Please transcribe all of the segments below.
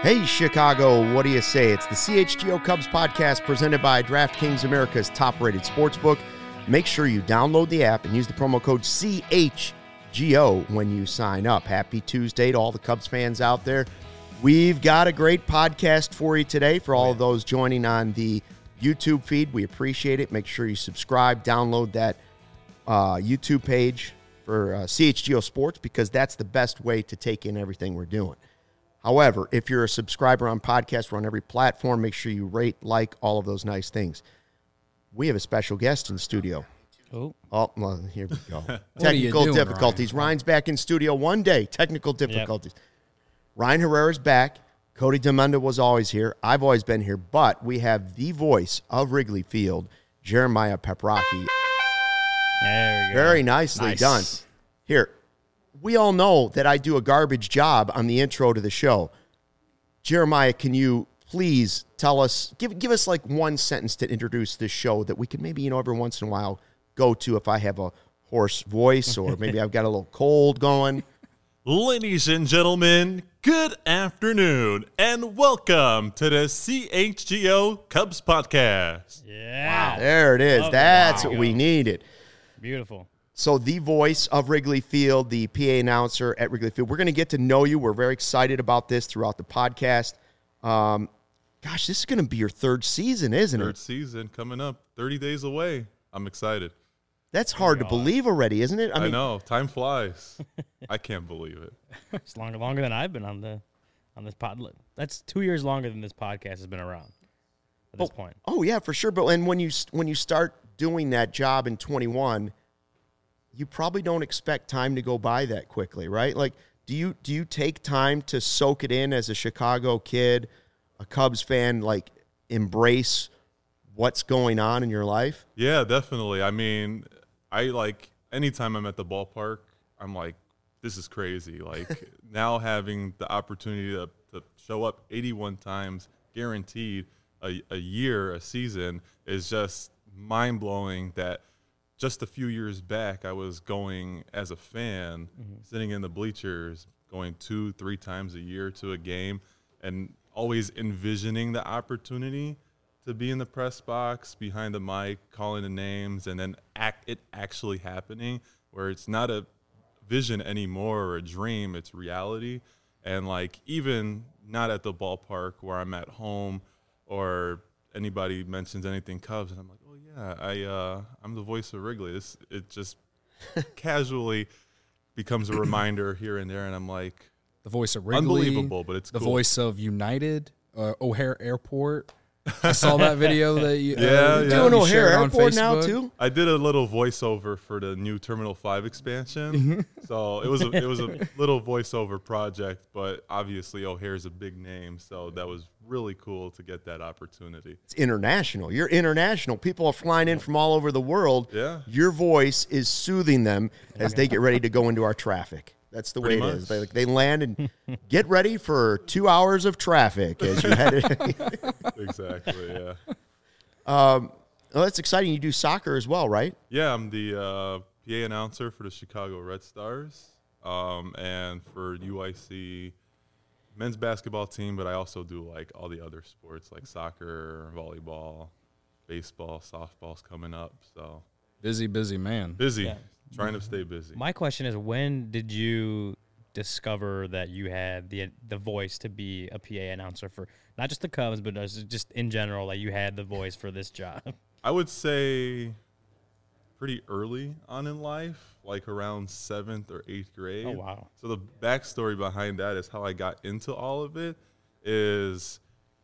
Hey, Chicago, what do you say? It's the CHGO Cubs podcast presented by DraftKings, America's top-rated sportsbook. Make sure you download the app and use the promo code CHGO when you sign up. Happy Tuesday to all the Cubs fans out there. We've got a great podcast for you today for all of those joining on the YouTube feed. We appreciate it. Make sure you subscribe, download that YouTube page for CHGO Sports because that's the best way to take in everything we're doing. However, if you're a subscriber on podcast, we're on every platform. Make sure you rate, like, all of those nice things. We have a special guest in studio. Oh, well, here we go. Technical difficulties. Ryan? Ryan's back in studio one day. Technical difficulties. Yep. Ryan Herrera's back. Cody Demunda was always here. I've always been here. But we have the voice of Wrigley Field, Jeremiah Paprocki. There we go. Very nicely done. Here. We all know that I do a garbage job on the intro to the show. Jeremiah, can you please tell us, give us like one sentence to introduce this show that we could maybe, every once in a while go to if I have a hoarse voice or maybe I've got a little cold going. Ladies and gentlemen, good afternoon and welcome to the CHGO Cubs podcast. Yeah. Wow. There it is. That's what we needed. Beautiful. So the voice of Wrigley Field, the PA announcer at Wrigley Field. We're going to get to know you. We're very excited about this throughout the podcast. Gosh, this is going to be your third season, isn't it? Third season coming up, 30 days away. I'm excited. That's hard to believe already, isn't it? I mean, know. Time flies. I can't believe it. It's longer than I've been on this pod. That's 2 years longer than this podcast has been around at this point. Oh, yeah, for sure. But and when you start doing that job in 21, you probably don't expect time to go by that quickly, right? Like, do you take time to soak it in as a Chicago kid, a Cubs fan, like embrace what's going on in your life? Yeah, definitely. I mean, anytime I'm at the ballpark, I'm like, this is crazy. Like now having the opportunity to show up 81 times guaranteed a year, a season is just mind-blowing that just a few years back, I was going as a fan, sitting in the bleachers, going 2-3 times a year to a game, and always envisioning the opportunity to be in the press box, behind the mic, calling the names, and then it actually happening, where it's not a vision anymore or a dream, it's reality. And like even not at the ballpark where I'm at home or anybody mentions anything Cubs, and I'm like, oh yeah, I'm the voice of Wrigley. It just casually becomes a reminder here and there, and I'm like, the voice of Wrigley, unbelievable, but it's the cool. voice of United, O'Hare Airport. I saw that video that you doing O'Hare Airport now too. I did a little voiceover for the new Terminal 5 expansion, so it was a little voiceover project. But obviously O'Hare's a big name, so that was really cool to get that opportunity. It's international. You're international. People are flying in from all over the world. Yeah, your voice is soothing them as they get ready to go into our traffic. That's the way it is. They land and get ready for 2 hours of traffic as you head in. Exactly, yeah. Well, that's exciting. You do soccer as well, right? Yeah, I'm the PA announcer for the Chicago Red Stars and for UIC men's basketball team, but I also do like all the other sports like soccer, volleyball, baseball, softball's coming up. So busy man. Busy. Yeah. Trying to stay busy. My question is, when did you discover that you had the voice to be a PA announcer for not just the Cubs, but just in general, like you had the voice for this job? I would say pretty early on in life, like around 7th or 8th grade. Oh, wow. So the backstory behind that is how I got into all of it is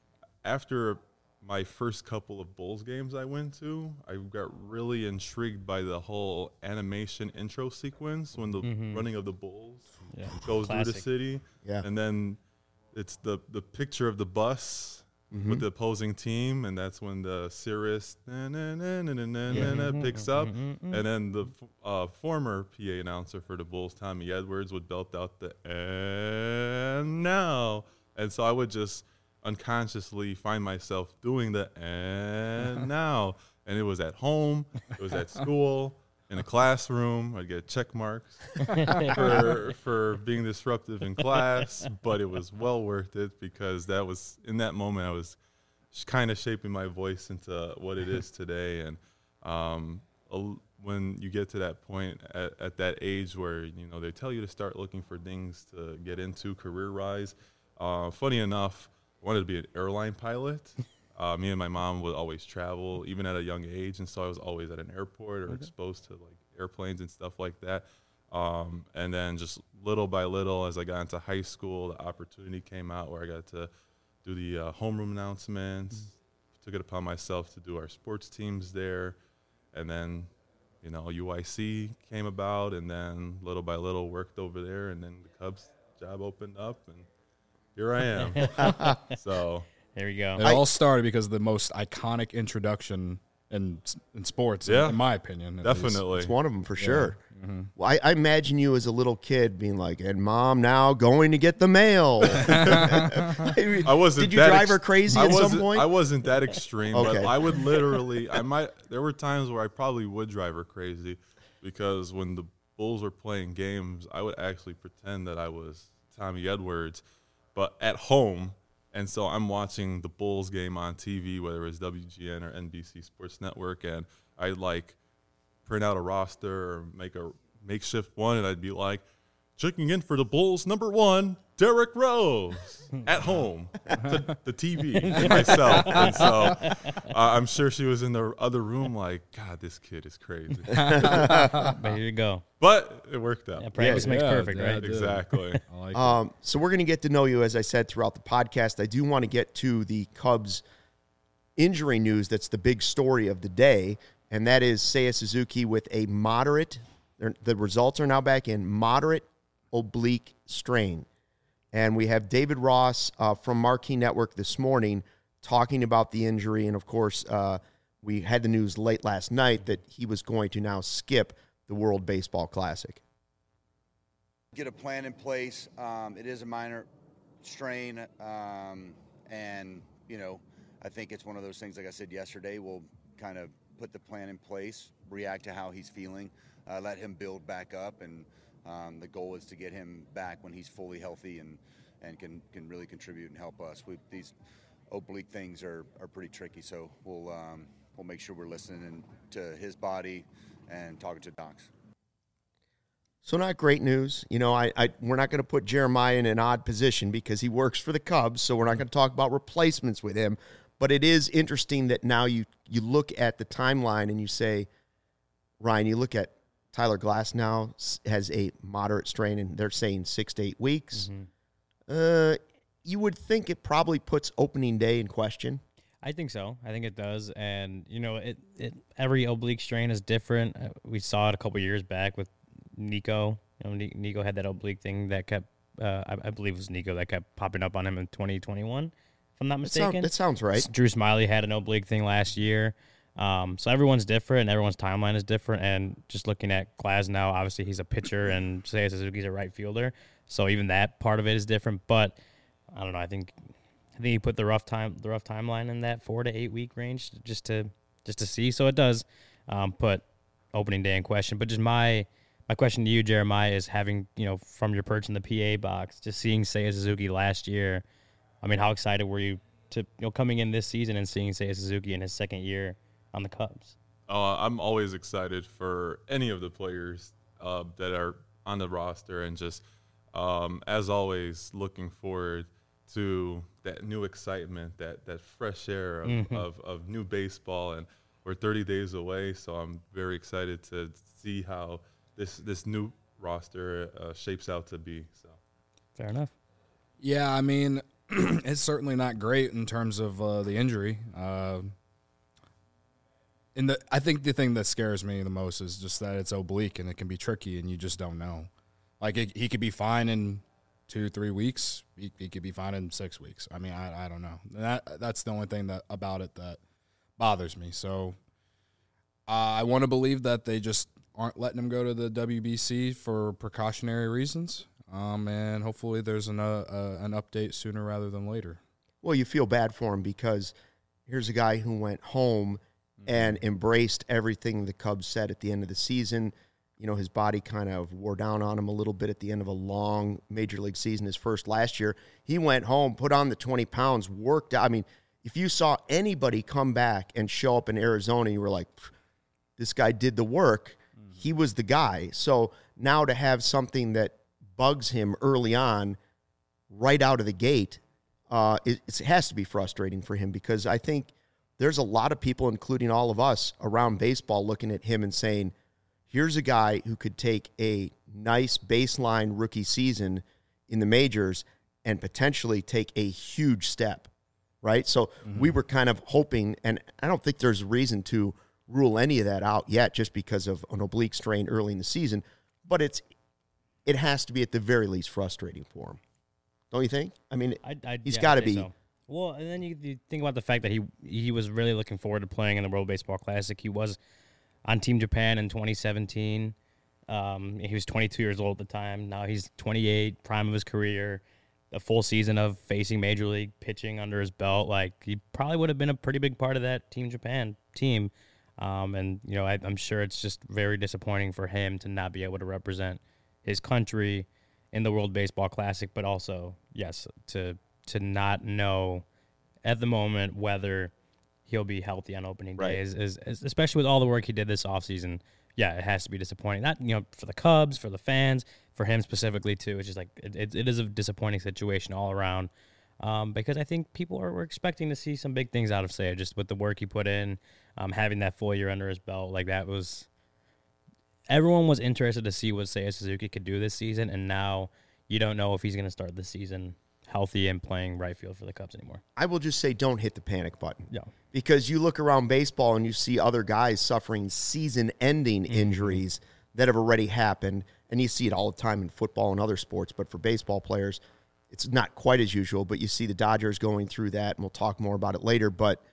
after my first couple of Bulls games I went to, I got really intrigued by the whole animation intro sequence when the running of the Bulls goes through the city. Yeah. And then it's the picture of the bus with the opposing team, and that's when the Cirrus picks up. And then the former PA announcer for the Bulls, Tommy Edwards, would belt out the "and now." And so I would just unconsciously find myself doing the "and now." And it was at home, it was at school, in a classroom. I'd get check marks for being disruptive in class, but it was well worth it because that was in that moment I was kind of shaping my voice into what it is today. And when you get to that point at that age where they tell you to start looking for things to get into career-wise, funny enough, I wanted to be an airline pilot. Me and my mom would always travel, even at a young age, and so I was always at an airport or exposed to like airplanes and stuff like that. And then just little by little, as I got into high school, the opportunity came out where I got to do the homeroom announcements. Took it upon myself to do our sports teams there, and then UIC came about, and then little by little worked over there, and then the Cubs job opened up, and here I am. So. There you go. It all started because of the most iconic introduction in sports, in my opinion. Definitely. It's one of them for sure. Mm-hmm. Well, I imagine you as a little kid being like, and Mom now going to get the mail. I wasn't. Did you drive her crazy at some point? I wasn't that extreme, Okay. but I would literally, there were times where I probably would drive her crazy because when the Bulls were playing games, I would actually pretend that I was Tommy Edwards, but at home. And so I'm watching the Bulls game on TV, whether it's WGN or NBC Sports Network, and I'd like print out a roster or make a makeshift one, and I'd be like, checking in for the Bulls, #1, Derrick Rose, at home, to the TV, to myself. And so I'm sure she was in the other room like, God, this kid is crazy. But here you go. But it worked out. Yeah, practice makes perfect, yeah, right? Exactly. I like it. So we're going to get to know you, as I said, throughout the podcast. I do want to get to the Cubs injury news. That's the big story of the day, and that is Seiya Suzuki with a moderate, the results are now back in, moderate oblique strain. And we have David Ross from Marquee Network this morning talking about the injury. And, of course, we had the news late last night that he was going to now skip the World Baseball Classic. Get a plan in place. It is a minor strain. And, I think it's one of those things, like I said yesterday, we'll kind of put the plan in place, react to how he's feeling, let him build back up. And the goal is to get him back when he's fully healthy and can really contribute and help us. These oblique things are pretty tricky, so we'll make sure we're listening to his body and talking to docs. So not great news. We're not going to put Jeremiah in an odd position because he works for the Cubs, so we're not going to talk about replacements with him. But it is interesting that now you look at the timeline and you say, Ryan, you look at Tyler Glass now has a moderate strain, and they're saying 6 to 8 weeks. Mm-hmm. You would think it probably puts opening day in question. I think so. I think it does. And, every oblique strain is different. We saw it a couple years back with Nico. Nico had that oblique thing that kept, I believe it was Nico that kept popping up on him in 2021, if I'm not mistaken. That sounds right. Drew Smiley had an oblique thing last year. So everyone's different, and everyone's timeline is different. And just looking at Glass now, obviously he's a pitcher, and Seiya Suzuki's a right fielder. So even that part of it is different. But I don't know. I think he put the rough timeline in that 4 to 8 week range just to see. So it does put opening day in question. But just my question to you, Jeremiah, is having from your perch in the PA box, just seeing Seiya Suzuki last year. I mean, how excited were you to coming in this season and seeing Seiya Suzuki in his second year on the Cubs? I'm always excited for any of the players that are on the roster, and just as always looking forward to that new excitement, that fresh air of new baseball. And we're 30 days away, so I'm very excited to see how this new roster shapes out to be. So fair enough. Yeah, I mean, it's certainly not great in terms of the injury. I think the thing that scares me the most is just that it's oblique and it can be tricky and you just don't know. Like he could be fine in 2-3 weeks. He could be fine in 6 weeks. I mean, I don't know. That's the only thing about it that bothers me. So I want to believe that they just aren't letting him go to the WBC for precautionary reasons. And hopefully there's an update sooner rather than later. Well, you feel bad for him because here's a guy who went home and embraced everything the Cubs said at the end of the season. You know, his body kind of wore down on him a little bit at the end of a long major league season, his first last year. He went home, put on the 20 pounds, worked out. I mean, if you saw anybody come back and show up in Arizona, you were like, this guy did the work. He was the guy. So now to have something that bugs him early on, right out of the gate, it has to be frustrating for him, because I think there's a lot of people, including all of us around baseball, looking at him and saying, here's a guy who could take a nice baseline rookie season in the majors and potentially take a huge step, right? So we were kind of hoping, and I don't think there's a reason to rule any of that out yet just because of an oblique strain early in the season, but it has to be at the very least frustrating for him. Don't you think? I mean, he's got to be. So. Well, and then you think about the fact that he was really looking forward to playing in the World Baseball Classic. He was on Team Japan in 2017. He was 22 years old at the time. Now he's 28, prime of his career. A full season of facing Major League pitching under his belt. Like, he probably would have been a pretty big part of that Team Japan team. And, you know, I'm sure it's just very disappointing for him to not be able to represent his country in the World Baseball Classic, but also, yes, to not know at the moment whether he'll be healthy on opening day, is especially with all the work he did this offseason. Yeah, it has to be disappointing. Not, you know, for the Cubs, for the fans, for him specifically too. It's just like it is a disappointing situation all around, because I think people were expecting to see some big things out of Seiya, just with the work he put in, having that full year under his belt. Like, that was, everyone was interested to see what Seiya Suzuki could do this season, and now you don't know if he's going to start the season healthy and playing right field for the Cubs anymore. I will just say, don't hit the panic button. Yeah. Because you look around baseball and you see other guys suffering season-ending injuries that have already happened, and you see it all the time in football and other sports, but for baseball players, it's not quite as usual, but you see the Dodgers going through that, and we'll talk more about it later, but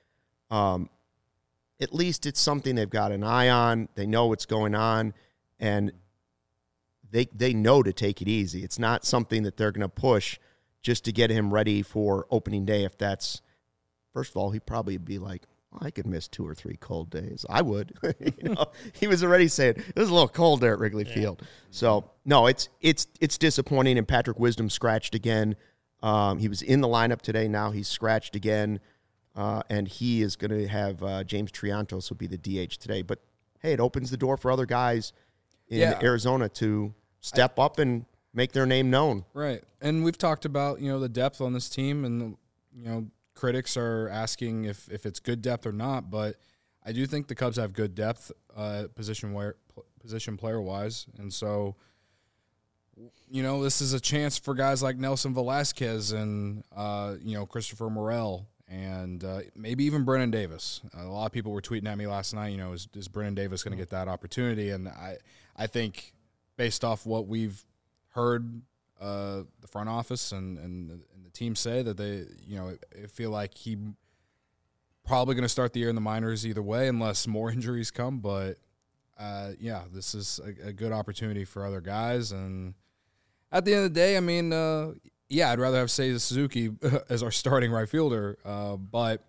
at least it's something they've got an eye on. They know what's going on, and they know to take it easy. It's not something that they're going to push just to get him ready for opening day. If that's, first of all, he'd probably be like, well, I could miss 2 or 3 cold days. I would. You know, he was already saying it was a little cold there at Wrigley Field. So no, it's disappointing. And Patrick Wisdom scratched again. He was in the lineup today. Now he's scratched again, and he is going to have James Triantos will be the DH today. But hey, it opens the door for other guys in Arizona to step up and make their name known. Right. And we've talked about, you know, the depth on this team, and, you know, critics are asking if it's good depth or not, but I do think the Cubs have good depth position player-wise. And so, you know, this is a chance for guys like Nelson Velasquez and, you know, Christopher Morel and maybe even Brennan Davis. A lot of people were tweeting at me last night, you know, is Brennan Davis going to get that opportunity? And I think based off what we've heard the front office and the team say, that they, you know, feel like he probably going to start the year in the minors either way unless more injuries come. But, yeah, this is a good opportunity for other guys. And at the end of the day, I mean, yeah, I'd rather have Seiya Suzuki as our starting right fielder. But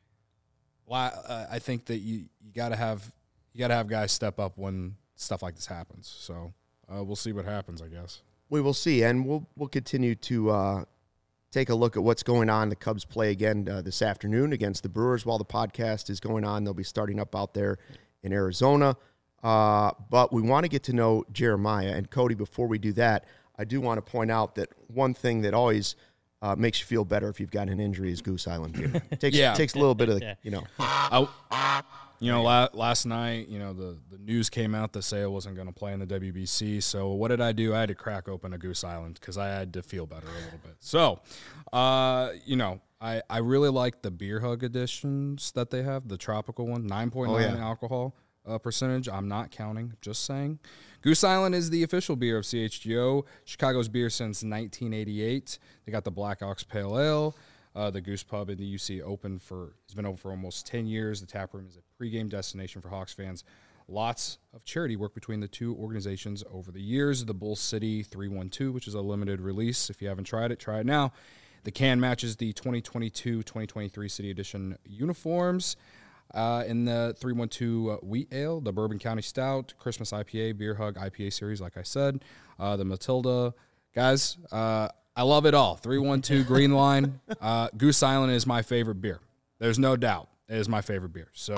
I think that you got to have guys step up when stuff like this happens. So we'll see what happens, I guess. We will see, and we'll continue to take a look at what's going on. The Cubs play again this afternoon against the Brewers while the podcast is going on. They'll be starting up out there in Arizona. But we want to get to know Jeremiah. And, Cody, before we do that, I do want to point out that one thing that always makes you feel better if you've got an injury is Goose Island beer. It takes a little bit of the, you know. You know, last night, you know, the news came out that Seiya wasn't going to play in the WBC. So what did I do? I had to crack open a Goose Island because I had to feel better a little bit. So, you know, I really like the Beer Hug editions that they have, the tropical one, 9.9 alcohol percentage. I'm not counting, just saying. Goose Island is the official beer of CHGO, Chicago's beer since 1988. They got the Black Ox Pale Ale. The Goose Pub in the UC has been open for almost 10 years. The tap room is a pregame destination for Hawks fans. Lots of charity work between the two organizations over the years. The Bull City 312, which is a limited release. If you haven't tried it, try it now. The can matches the 2022-2023 City Edition uniforms. In the 312 Wheat Ale, the Bourbon County Stout, Christmas IPA, Beer Hug IPA series, like I said, the Matilda. Guys, I love it all. 312 Green Line. Goose Island is my favorite beer. There's no doubt. It is my favorite beer. So,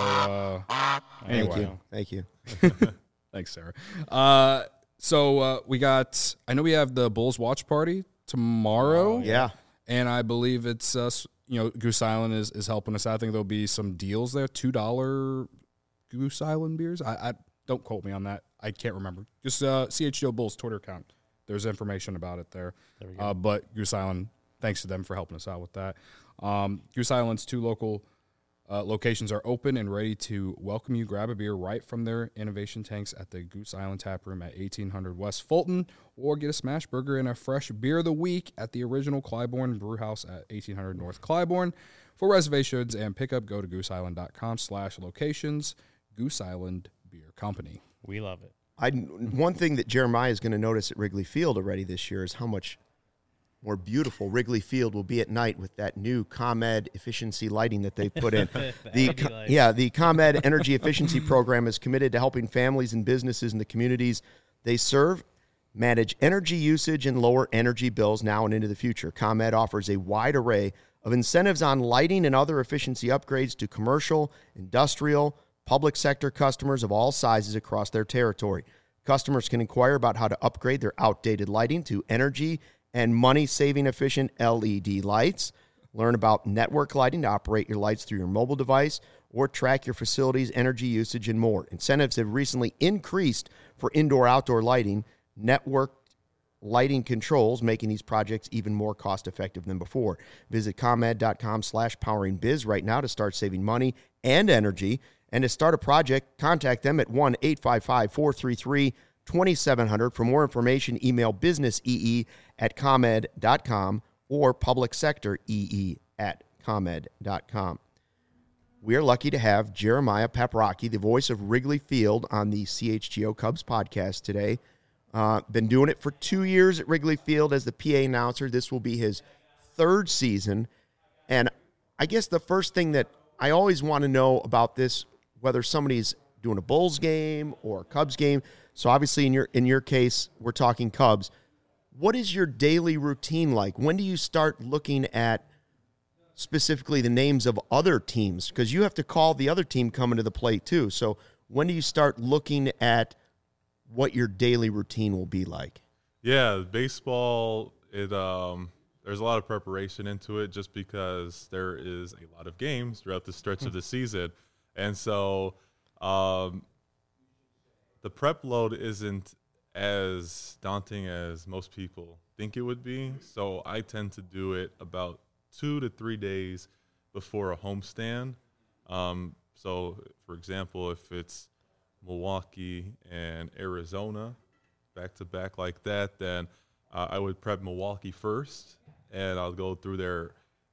anyway. Thank you. Thanks, Sarah. So we got, I know we have the Bulls watch party tomorrow. Yeah. And I believe it's, Goose Island is helping us out. I think there'll be some deals there. $2 Goose Island beers. I don't quote me on that. I can't remember. Just CHGO Bulls Twitter account. There's information about it there. There we go. But Goose Island, thanks to them for helping us out with that. Goose Island's 2 local locations are open and ready to welcome you. Grab a beer right from their innovation tanks at the Goose Island Tap Room at 1800 West Fulton, or get a smash burger and a fresh beer of the week at the original Clybourne Brew House at 1800 North Clybourne. For reservations and pickup, go to gooseisland.com/locations. Goose Island Beer Company. We love it. One thing that Jeremiah is going to notice at Wrigley Field already this year is how much more beautiful Wrigley Field will be at night with that new ComEd efficiency lighting that they put in. The ComEd Energy Efficiency Program is committed to helping families and businesses in the communities they serve manage energy usage and lower energy bills now and into the future. ComEd offers a wide array of incentives on lighting and other efficiency upgrades to commercial, industrial, public sector customers of all sizes across their territory. Customers can inquire about how to upgrade their outdated lighting to energy and money-saving efficient LED lights. Learn about network lighting to operate your lights through your mobile device or track your facility's energy usage and more. Incentives have recently increased for indoor-outdoor lighting, network lighting controls, making these projects even more cost-effective than before. Visit ComEd.com/poweringbiz right now to start saving money and energy. And to start a project, contact them at 1-855-433-2700. For more information, email businessee@comed.com or publicsectoree@comed.com. We are lucky to have Jeremiah Paprocki, the voice of Wrigley Field, on the CHGO Cubs podcast today. Been doing it for 2 years at Wrigley Field as the PA announcer. This will be his 3rd season. And I guess the first thing that I always want to know about this, whether somebody's doing a Bulls game or a Cubs game. So obviously in your case, we're talking Cubs. What is your daily routine like? When do you start looking at specifically the names of other teams? Because you have to call the other team coming to the plate too. So when do you start looking at what your daily routine will be like? Yeah, baseball, there's a lot of preparation into it just because there is a lot of games throughout the stretch of the season. And so the prep load isn't as daunting as most people think it would be. So I tend to do it about 2 to 3 days before a homestand. So, for example, if it's Milwaukee and Arizona back-to-back like that, then I would prep Milwaukee first, and I'll go through their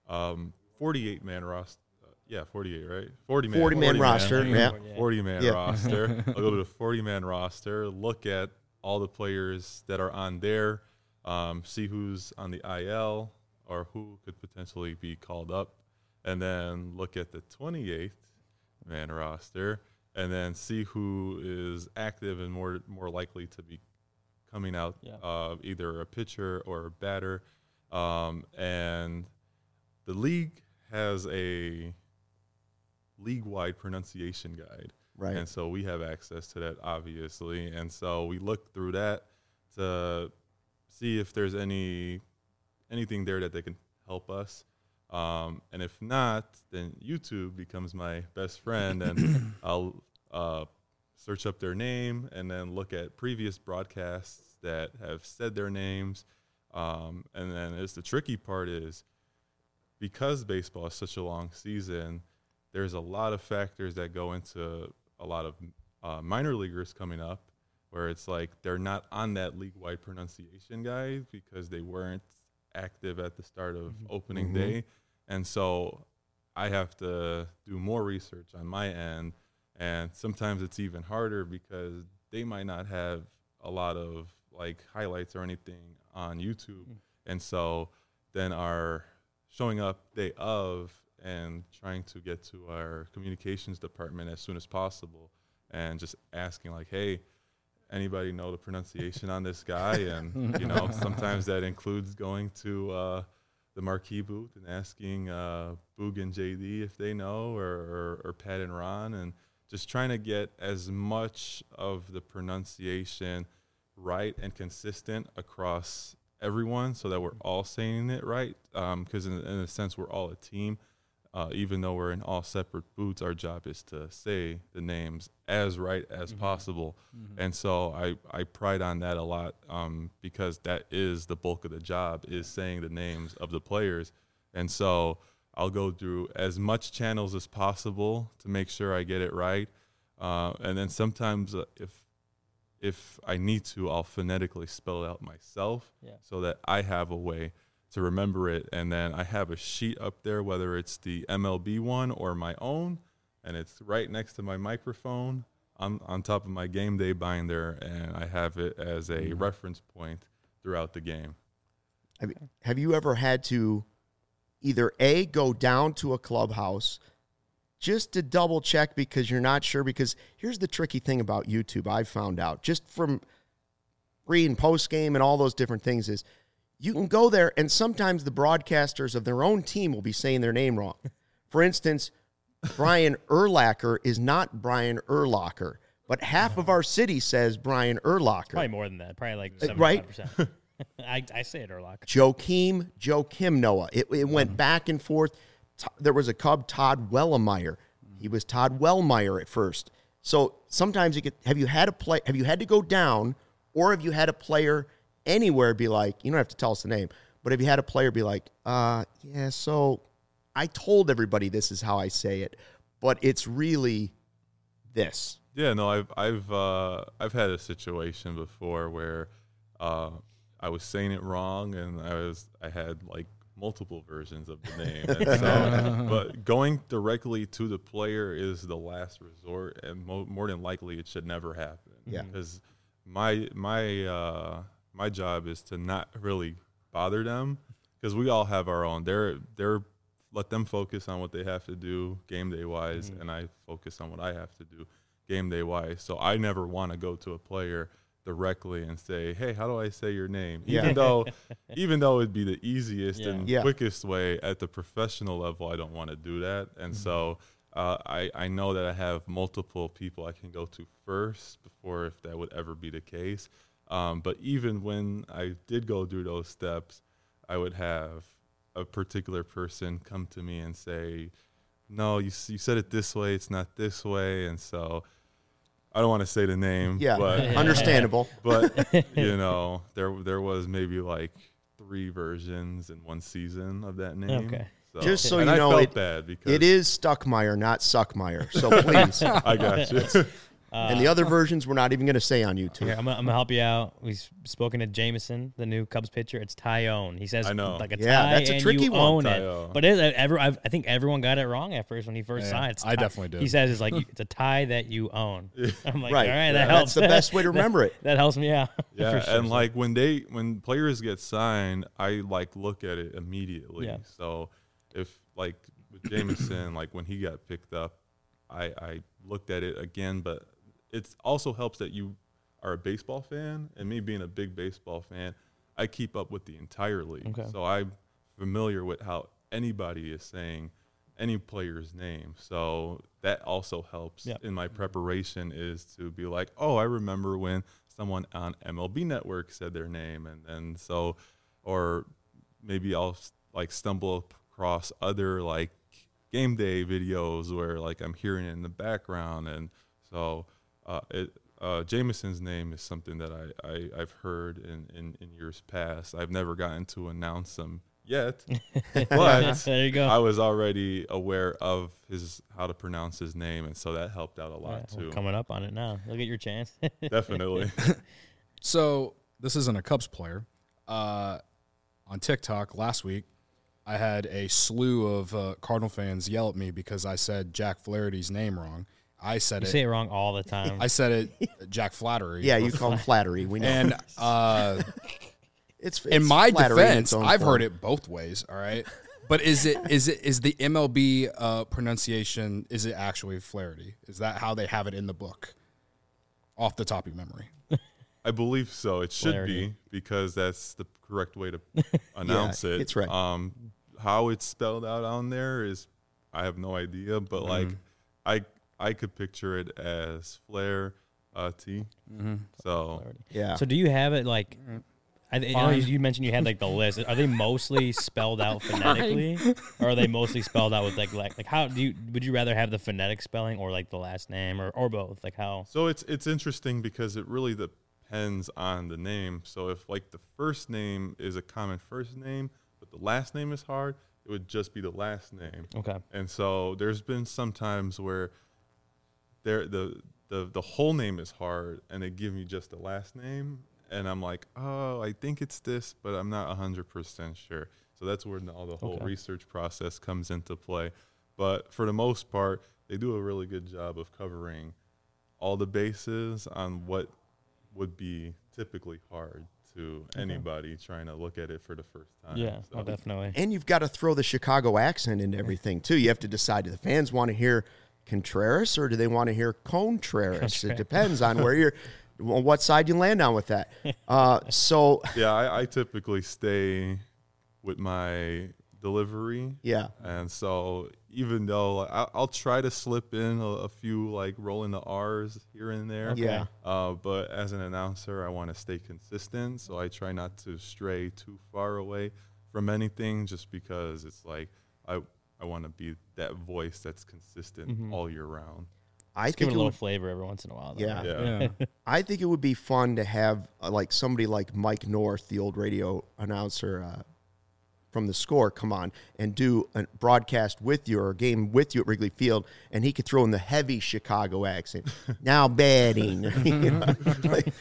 48-man roster. 48, right? 40-man roster, yeah. 40-man roster. I'll go to the 40-man roster, look at all the players that are on there, see who's on the IL or who could potentially be called up, and then look at the 28-man roster, and then see who is active and more likely to be coming out, either a pitcher or a batter. And the league has a league-wide pronunciation guide. Right. And so we have access to that, obviously. And so we look through that to see if there's anything there that they can help us. And if not, then YouTube becomes my best friend, and I'll search up their name and then look at previous broadcasts that have said their names. And then the tricky part is, because baseball is such a long season, there's a lot of factors that go into a lot of minor leaguers coming up, where it's like they're not on that league-wide pronunciation guide because they weren't active at the start of opening day. And so I have to do more research on my end, and sometimes it's even harder because they might not have a lot of like highlights or anything on YouTube. And so then our showing up day of and trying to get to our communications department as soon as possible and just asking like, hey, anybody know the pronunciation on this guy? And, you know, sometimes that includes going to the marquee booth and asking Boog and JD if they know, or Pat and Ron, and just trying to get as much of the pronunciation right and consistent across everyone so that we're all saying it right. Because in a sense, we're all a team. Even though we're in all separate booths, our job is to say the names as right as possible. And so I pride on that a lot, because that is the bulk of the job, is saying the names of the players. And so I'll go through as much channels as possible to make sure I get it right. And then sometimes if I need to, I'll phonetically spell it out myself so that I have a way to remember it. And then I have a sheet up there, whether it's the MLB one or my own, and it's right next to my microphone on top of my game day binder, and I have it as a reference point throughout the game. Have you ever had to either A, go down to a clubhouse just to double check because you're not sure? Because here's the tricky thing about YouTube I've found out, just from pre and post game and all those different things, is you can go there and sometimes the broadcasters of their own team will be saying their name wrong. For instance, Brian Urlacher is not Brian Urlacher, but half of our city says Brian Urlacher. Probably more than that. Probably like 75%. Right? I say it Urlacher. Joakim Noah. It went back and forth. There was a Cub, Todd Wellemeyer. He was Todd Wellmeyer at first. So sometimes have you had to go down, or have you had a player anywhere be like, you don't have to tell us the name, but have you had a player be like, yeah, so I told everybody this is how I say it, but it's really this. Yeah, no, I've had a situation before where I was saying it wrong, and I had like multiple versions of the name. And so, but going directly to the player is the last resort, and more than likely it should never happen. Yeah, because my job is to not really bother them, because we all have our own. They're let them focus on what they have to do game day wise, and I focus on what I have to do game day wise. So I never want to go to a player directly and say, hey, how do I say your name? Even though it'd be the easiest and quickest way at the professional level, I don't want to do that. And so I know that I have multiple people I can go to first before, if that would ever be the case. But even when I did go through those steps, I would have a particular person come to me and say, no, you said it this way, it's not this way. And so I don't want to say the name. Yeah, but, understandable. But, you know, there was maybe like 3 versions in one season of that name. Okay. So, just so and you know, I felt bad because it is Stuckmeyer, not Suckmeyer. So please. I got you. And the other versions we're not even going to say on YouTube. Here, I'm gonna help you out. We've spoken to Jameson, the new Cubs pitcher. It's Tyone. He says, I know. like a tie, that's a and tricky you one. own Tyone. it. But I think everyone got it wrong at first when he first signed. It's I tie. definitely did. He says it's like it's a tie that you own. I'm like, Right. all right, that That's helps. the best way to remember it. That helps me out. Yeah, for sure. and like when players get signed, I like look at it immediately. Yeah. So if like with Jameson, like when he got picked up, I looked at it again, but it also helps that you are a baseball fan, and me being a big baseball fan, I keep up with the entire league. Okay. So I'm familiar with how anybody is saying any player's name. So that also helps in my preparation, is to be like, oh, I remember when someone on MLB Network said their name. And then so, or maybe I'll like stumble across other like game day videos where like I'm hearing it in the background. And so Jameson's name is something that I've heard in years past. I've never gotten to announce him yet, but there you go. I was already aware of how to pronounce his name, and so that helped out a lot We're too. coming up on it now. Look at your chance. Definitely. So this isn't a Cubs player. On TikTok last week, I had a slew of Cardinal fans yell at me because I said Jack Flaherty's name wrong. I said You say it wrong all the time. I said it Jack Flattery. Yeah, you call him flattery. We know. And it's in my flattery in its defense, own I've form. heard it both ways, all right? But is the MLB pronunciation, is it actually Flaherty? Is that how they have it in the book? Off the top of your memory. I believe so. It should Flaherty. be, because that's the correct way to announce it. it's right. How it's spelled out on there is, I have no idea, but like I could picture it as Flair T. So Yeah. So do you have it like? I know you mentioned you had like the list. Are they mostly spelled out phonetically, or are they mostly spelled out with like how would you rather have the phonetic spelling or like the last name or both? Like how? So it's interesting because it really depends on the name. So if like the first name is a common first name, but the last name is hard, it would just be the last name. Okay. And so there's been some times where the whole name is hard and they give me just the last name, and I'm like, oh, I think it's this, but I'm not 100% sure. So that's where all the whole research process comes into play. But for the most part, they do a really good job of covering all the bases on what would be typically hard to anybody trying to look at it for the first time. Yeah, So- definitely. And you've got to throw the Chicago accent into everything, too. You have to decide, do the fans want to hear Contreras or do they want to hear Contreras? It depends on what side you land on with that. So, Yeah, I typically stay with my delivery. yeah. And so even though I'll try to slip in a few like rolling the R's here and there. Yeah. But as an announcer, I want to stay consistent. So I try not to stray too far away from anything, just because it's like I want to be that voice that's consistent all year round. I Give think it a it little would, flavor every once in a while. Though, Yeah. right? Yeah. I think it would be fun to have like somebody like Mike North, the old radio announcer from The Score, come on and do a broadcast with you or a game with you at Wrigley Field, and he could throw in the heavy Chicago accent. Now batting, you know, like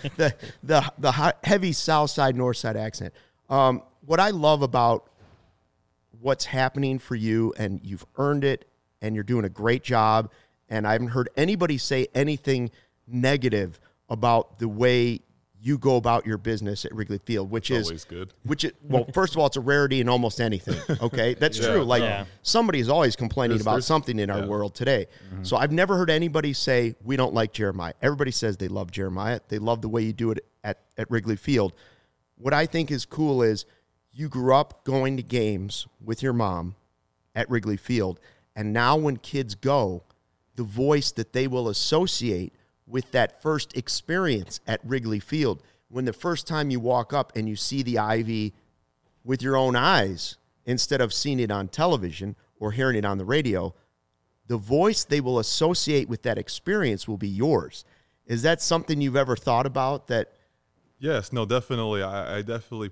the heavy South Side, North Side accent. What I love about what's happening for you, and you've earned it, and you're doing a great job. And I haven't heard anybody say anything negative about the way you go about your business at Wrigley Field, which is Always good. well, first of all, it's a rarity in almost anything. Okay, that's true. Like somebody is always complaining about something in our world today. So I've never heard anybody say we don't like Jeremiah. Everybody says they love Jeremiah. They love the way you do it at Wrigley Field. What I think is cool is you grew up going to games with your mom at Wrigley Field, and now when kids go, the voice that they will associate with that first experience at Wrigley Field, when the first time you walk up and you see the Ivy with your own eyes instead of seeing it on television or hearing it on the radio, the voice they will associate with that experience will be yours. Is that something you've ever thought about? That Yes, no, definitely. I definitely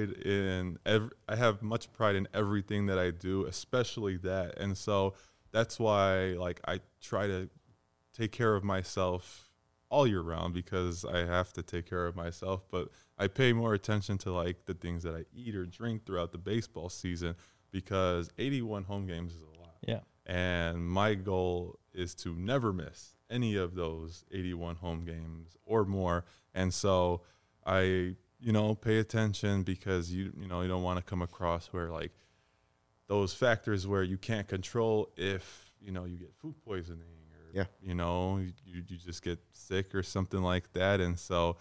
I have much pride in everything that I do, especially that. And so that's why like I try to take care of myself all year round, because I have to take care of myself, but I pay more attention to like the things that I eat or drink throughout the baseball season, because 81 home games is a lot. Yeah. And my goal is to never miss any of those 81 home games or more. And so I, pay attention, because you don't want to come across where like those factors where you can't control if, you get food poisoning or, you just get sick or something like that. And so,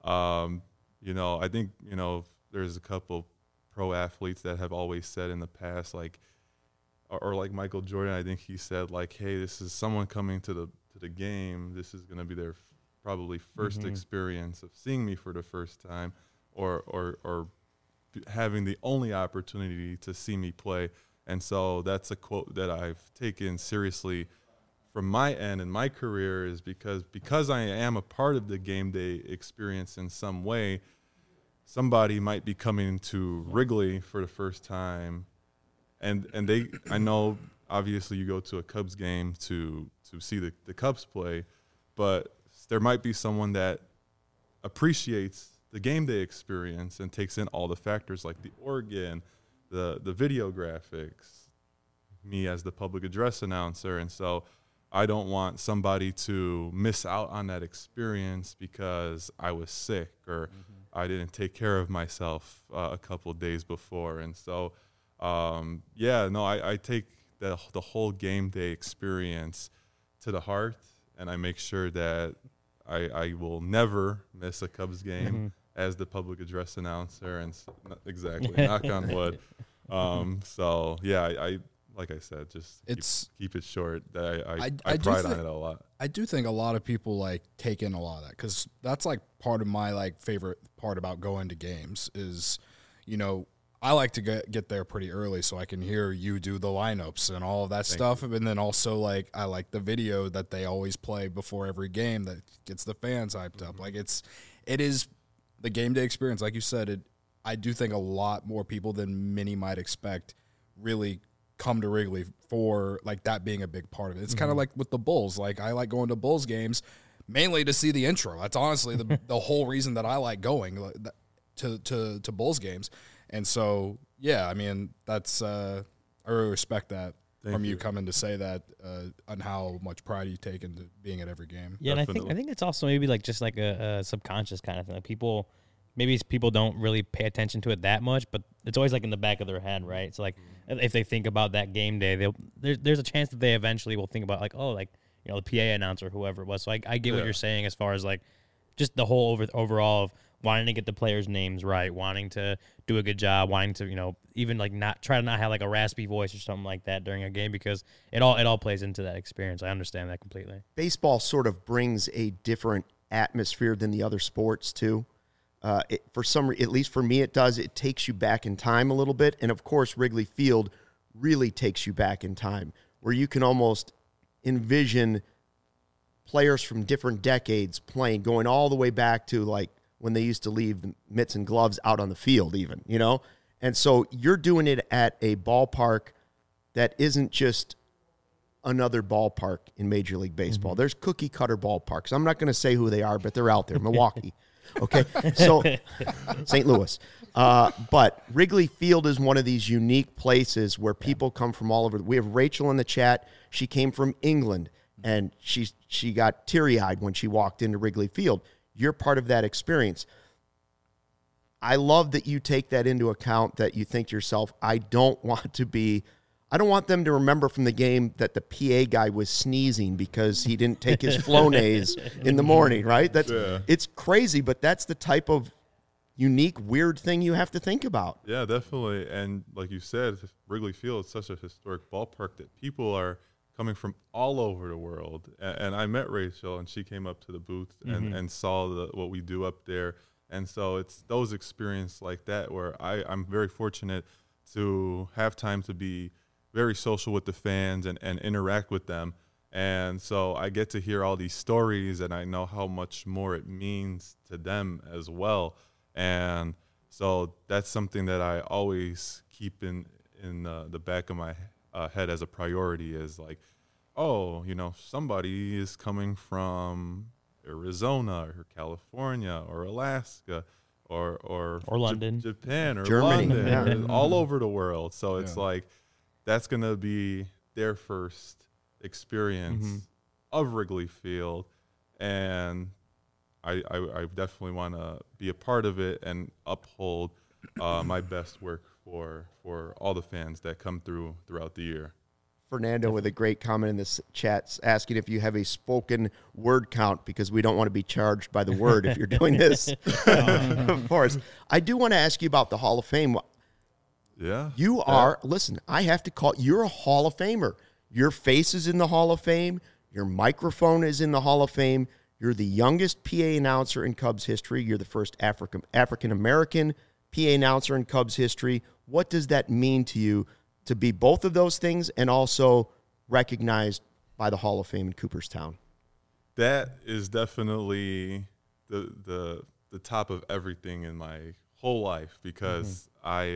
I think, there's a couple pro athletes that have always said in the past, like, or like Michael Jordan, I think he said like, hey, this is someone coming to the game. This is going to be their probably first experience of seeing me for the first time, or having the only opportunity to see me play. And so that's a quote that I've taken seriously from my end in my career, is because I am a part of the game day experience in some way. Somebody might be coming to Wrigley for the first time, and I know obviously you go to a Cubs game to see the Cubs play, but there might be someone that appreciates the game day experience and takes in all the factors like the organ, the video graphics, me as the public address announcer. And so I don't want somebody to miss out on that experience because I was sick or I didn't take care of myself a couple of days before. And so I take the whole game day experience to the heart, and I make sure that I will never miss a Cubs game as the public address announcer, and knock on wood. I like I said, just keep it short. I pride on it a lot. I do think a lot of people like take in a lot of that, because that's like part of my like favorite part about going to games is, you know, I like to get there pretty early so I can hear you do the lineups and all of that stuff. And then also, like, I like the video that they always play before every game that gets the fans hyped up. Like, it is the game day experience. Like you said, I do think a lot more people than many might expect really come to Wrigley for, like, that being a big part of it. It's kind of like with the Bulls. Like, I like going to Bulls games mainly to see the intro. That's honestly the whole reason that I like going to Bulls games. And so, yeah, I mean, that's I really respect that from you coming to say that on how much pride you take into being at every game. Yeah, definitely. And I think it's also maybe like just like a subconscious kind of thing. Like people don't really pay attention to it that much, but it's always like in the back of their head, right? So like if they think about that game day, there's a chance that they eventually will think about like, oh, like, you know, the PA announcer, whoever it was. So I get what you're saying as far as like just the whole overall of wanting to get the players' names right, wanting to do a good job, wanting to, you know, even like not try to not have like a raspy voice or something like that during a game, because it all plays into that experience. I understand that completely. Baseball sort of brings a different atmosphere than the other sports too. At least for me, it does. It takes you back in time a little bit, and of course, Wrigley Field really takes you back in time, where you can almost envision players from different decades playing, going all the way back to like when they used to leave the mitts and gloves out on the field even, you know? And so you're doing it at a ballpark that isn't just another ballpark in Major League Baseball. Mm-hmm. There's cookie-cutter ballparks. I'm not going to say who they are, but they're out there. Milwaukee. Okay? So St. Louis. But Wrigley Field is one of these unique places where people come from all over. We have Rachel in the chat. She came from England, and she got teary-eyed when she walked into Wrigley Field. You're part of that experience. I love that you take that into account, that you think to yourself, I don't want them to remember from the game that the PA guy was sneezing because he didn't take his Flonase in the morning, right? It's crazy, but that's the type of unique, weird thing you have to think about. Yeah, definitely. And like you said, Wrigley Field is such a historic ballpark that people are coming from all over the world. And I met Rachel, and she came up to the booth and saw what we do up there. And so it's those experiences like that where I'm very fortunate to have time to be very social with the fans and interact with them. And so I get to hear all these stories, and I know how much more it means to them as well. And so that's something that I always keep in the back of my head as a priority, is like, oh, you know, somebody is coming from Arizona or California or Alaska or London, Japan or Germany, London, all over the world. So it's like that's going to be their first experience of Wrigley Field, and I definitely want to be a part of it and uphold my best work for all the fans that come throughout the year. Fernando with a great comment in this chat asking if you have a spoken word count, because we don't want to be charged by the word if you're doing this. Of course. I do want to ask you about the Hall of Fame. Yeah. You are, listen, I have to call, you're a Hall of Famer. Your face is in the Hall of Fame. Your microphone is in the Hall of Fame. You're the youngest PA announcer in Cubs history. You're the first African-American PA announcer in Cubs history. What does that mean to you to be both of those things and also recognized by the Hall of Fame in Cooperstown? That is definitely the top of everything in my whole life, because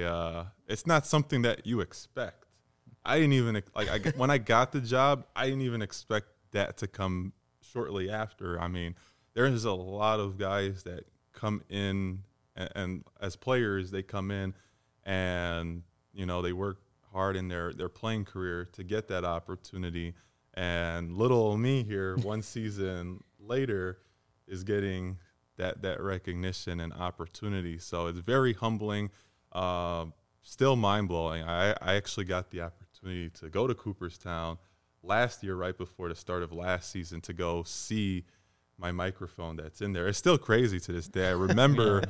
it's not something that you expect. I didn't even when I got the job, I didn't even expect that to come shortly after. I mean, there's a lot of guys that come in and as players, they come in and, you know, they work hard in their playing career to get that opportunity. And little me here, one season later, is getting that recognition and opportunity. So it's very humbling. still mind-blowing. I actually got the opportunity to go to Cooperstown last year, right before the start of last season, to go see my microphone that's in there. It's still crazy to this day. I remember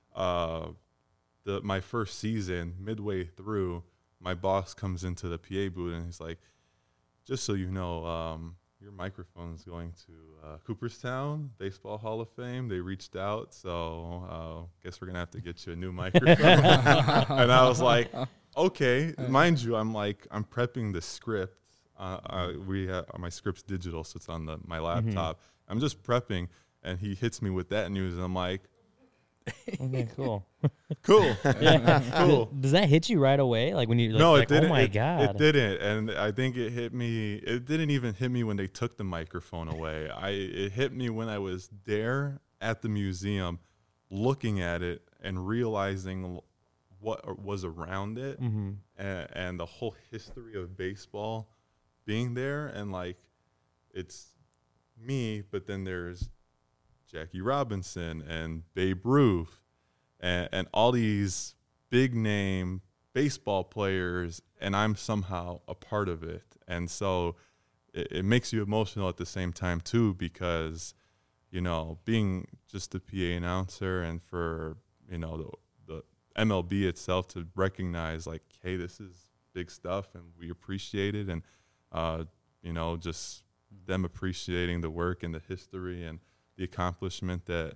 my first season, midway through, my boss comes into the PA booth and he's like, just so you know, your microphone is going to Cooperstown Baseball Hall of Fame. They reached out, so guess we're going to have to get you a new microphone. And I was like, okay. Mind you, I'm prepping the script. We have my script's digital, so it's on my laptop. I'm just prepping, and he hits me with that news, and I'm like, Okay, cool. cool. Yeah. Cool. Does that hit you right away? Like when you No, like, it didn't. oh my It God. didn't, and I think it hit me. It didn't even hit me when they took the microphone away. It hit me when I was there at the museum, looking at it and realizing what was around it, and the whole history of baseball being there, and like it's me, but then there's Jackie Robinson and Babe Ruth and all these big name baseball players, and I'm somehow a part of it. And so it makes you emotional at the same time too, because, you know, being just a PA announcer, and for, you know, the MLB itself to recognize like, hey, this is big stuff and we appreciate it. And, you know, just them appreciating the work and the history and the accomplishment that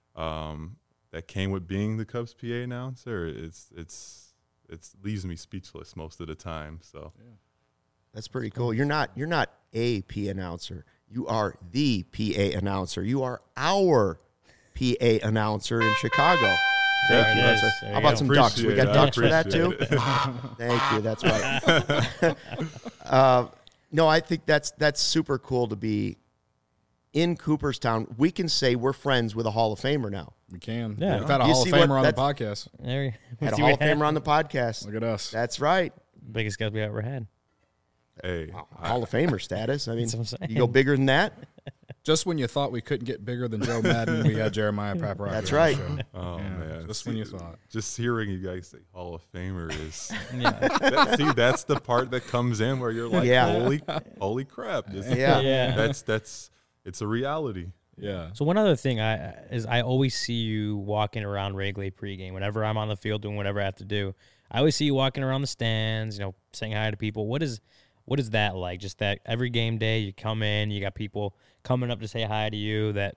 that came with being the Cubs PA announcer, it leaves me speechless most of the time. So That's pretty cool. You're not a PA announcer. You are the PA announcer. You are our PA announcer in Chicago. Thank There you. it That's is. a- There how you about go. some ducks? We got Appreciate it. ducks for that too? Appreciate Thank you. That's right. No, I think that's super cool to be in Cooperstown. We can say we're friends with a Hall of Famer now. We can. Yeah. We've had a You Hall of see what- Famer on the that's- podcast. There you Had a see Hall what of Famer on the happened? podcast. Look at us. That's right. Biggest guest we ever had. Hey, Hall of Famer status. I mean, That's what I'm saying. you go bigger than that. Just when you thought we couldn't get bigger than Joe Madden, we had Jeremiah Paparotty. That's on the right. show. oh Yeah, man, just when you thought. Just hearing you guys say Hall of Famer is Yeah. that's the part that comes in where you're like, Yeah. holy crap, Yeah. Yeah. that's it's a reality. Yeah. So one other thing I always see you walking around Wrigley pregame. Whenever I'm on the field doing whatever I have to do, I always see you walking around the stands, you know, saying hi to people. What is that like? Just that every game day you come in, you got people coming up to say hi to you. That